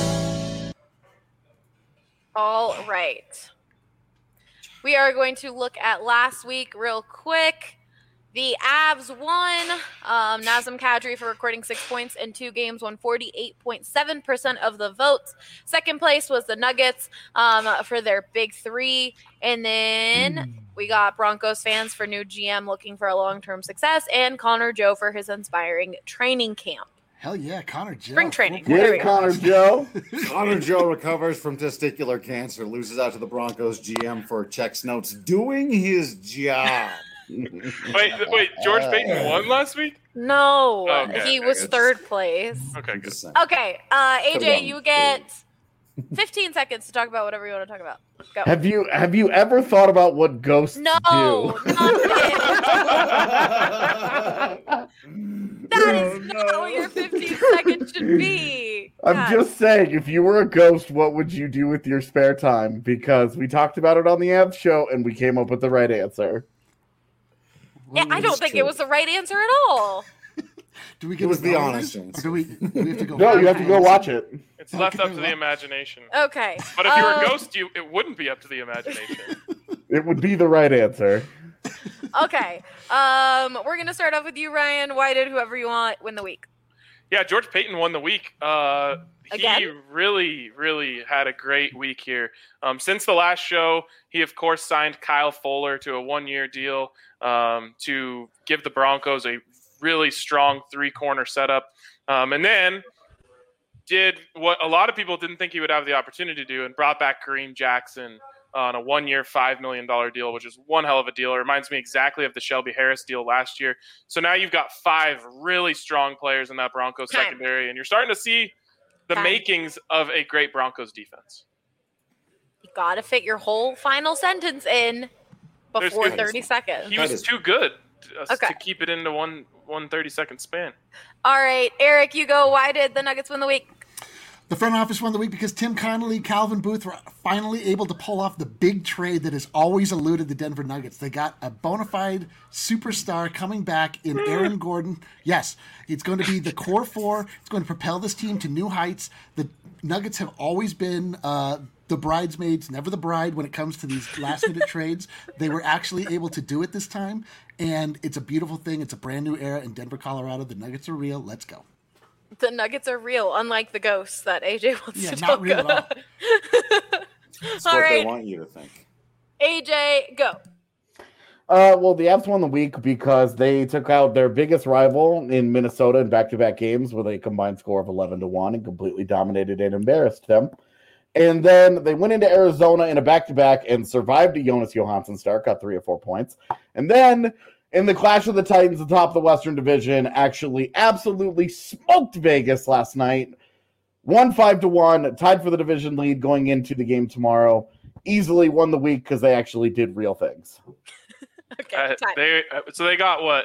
All right. We are going to look at last week real quick. The Avs won. Nazem Kadri for recording 6 points in 2 games won 48.7% of the votes. Second place was the Nuggets for their big 3. And then we got Broncos fans for new GM looking for a long-term success, and Connor Joe for his inspiring training camp. Hell yeah, Connor Joe. Spring training. Yeah, Connor Joe. Connor Joe recovers from testicular cancer, loses out to the Broncos GM for checks notes, doing his job. Wait, George Payton won last week? No, okay, he was third place. Okay, good. Okay, AJ, you get 15 seconds to talk about whatever you want to talk about. Go. Have you ever thought about what ghosts do? No, that is not what your 15 seconds should be. I'm just saying, if you were a ghost, what would you do with your spare time? Because we talked about it on the Avs show, and we came up with the right answer. Yeah, I don't think it was the right answer at all. Do we get it was the honest answer. Do we have to go? No, you have to go watch it. It's left up to the imagination. Okay. But if you were a ghost, it wouldn't be up to the imagination. It would be the right answer. Okay. We're going to start off with you, Ryan. Why did whoever you want win the week? Yeah, George Payton won the week. He really, really had a great week here. Since the last show, he, of course, signed Kyle Fuller to a 1-year deal to give the Broncos a really strong 3-corner setup. And then did what a lot of people didn't think he would have the opportunity to do and brought back Kareem Jackson on a 1-year, $5 million deal, which is one hell of a deal. It reminds me exactly of the Shelby Harris deal last year. So now you've got 5 really strong players in that Broncos secondary, and you're starting to see the makings of a great Broncos defense. You got to fit your whole final sentence in before 30 seconds. He was too good to keep it into one 30-second span. All right, Eric, you go. Why did the Nuggets win the week? The front office won the week because Tim Connolly, Calvin Booth were finally able to pull off the big trade that has always eluded the Denver Nuggets. They got a bona fide superstar coming back in Aaron Gordon. Yes, it's going to be the core 4. It's going to propel this team to new heights. The Nuggets have always been the bridesmaids, never the bride when it comes to these last-minute trades. They were actually able to do it this time. And it's a beautiful thing. It's a brand new era in Denver, Colorado. The Nuggets are real. Let's go. The Nuggets are real, unlike the ghosts that AJ wants to talk not real about. at all. That's All what right. they want you to think. AJ, go. Well, the Avs won the week because they took out their biggest rival in Minnesota in back-to-back games with a combined score of 11-1 and completely dominated and embarrassed them. And then they went into Arizona in a back-to-back and survived a Jonas Johansson start, got 3 or 4 points. And then in the clash of the Titans atop the Western Division, actually absolutely smoked Vegas last night. Won 5-1, tied for the division lead going into the game tomorrow. Easily won the week because they actually did real things. Okay, time. They got what?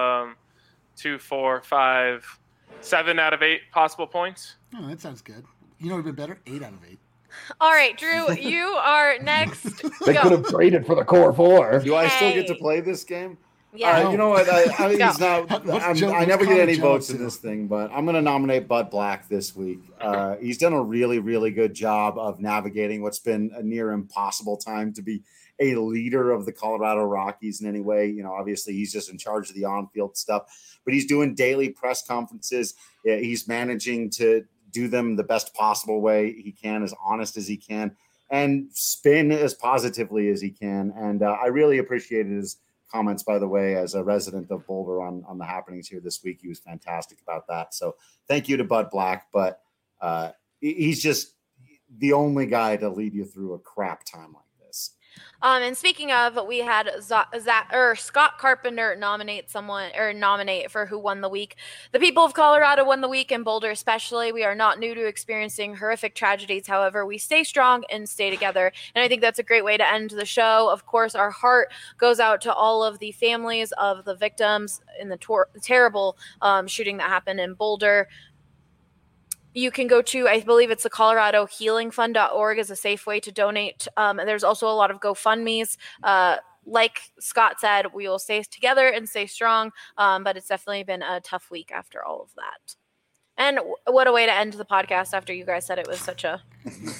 2, 4, 5, 7 out of 8 possible points. Oh, that sounds good. You know what would have been better? 8 out of 8. All right, Drew, you are next. They Go. could have traded for the core 4. Do I still get to play this game? Yeah. You know what? I Go. he's not. I never get any votes in this thing, but I'm going to nominate Bud Black this week. He's done a really, really good job of navigating what's been a near impossible time to be a leader of the Colorado Rockies in any way. You know, obviously he's just in charge of the on-field stuff, but he's doing daily press conferences. He's managing to do them the best possible way he can, as honest as he can, and spin as positively as he can. And I really appreciated his comments, by the way, as a resident of Boulder on the happenings here this week. He was fantastic about that. So thank you to Bud Black, but he's just the only guy to lead you through a crap time like this. And speaking of, we had Scott Carpenter nominate for who won the week. The people of Colorado won the week, and Boulder especially. We are not new to experiencing horrific tragedies. However, we stay strong and stay together. And I think that's a great way to end the show. Of course, our heart goes out to all of the families of the victims in the terrible shooting that happened in Boulder. You can go to, I believe it's the ColoradoHealingFund.org is a safe way to donate. And there's also a lot of GoFundMes. Like Scott said, we will stay together and stay strong. But it's definitely been a tough week after all of that. And what a way to end the podcast after you guys said it was such a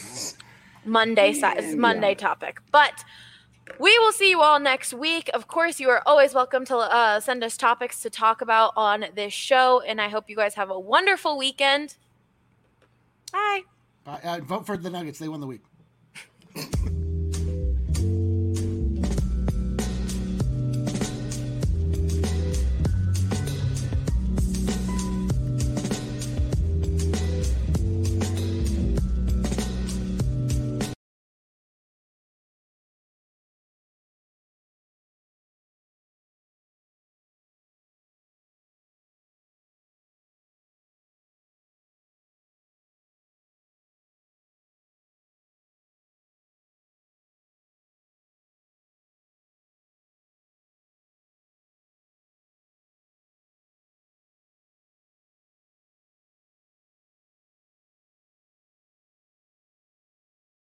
Monday topic. But we will see you all next week. Of course, you are always welcome to send us topics to talk about on this show. And I hope you guys have a wonderful weekend. Bye. Vote for the Nuggets. They won the week.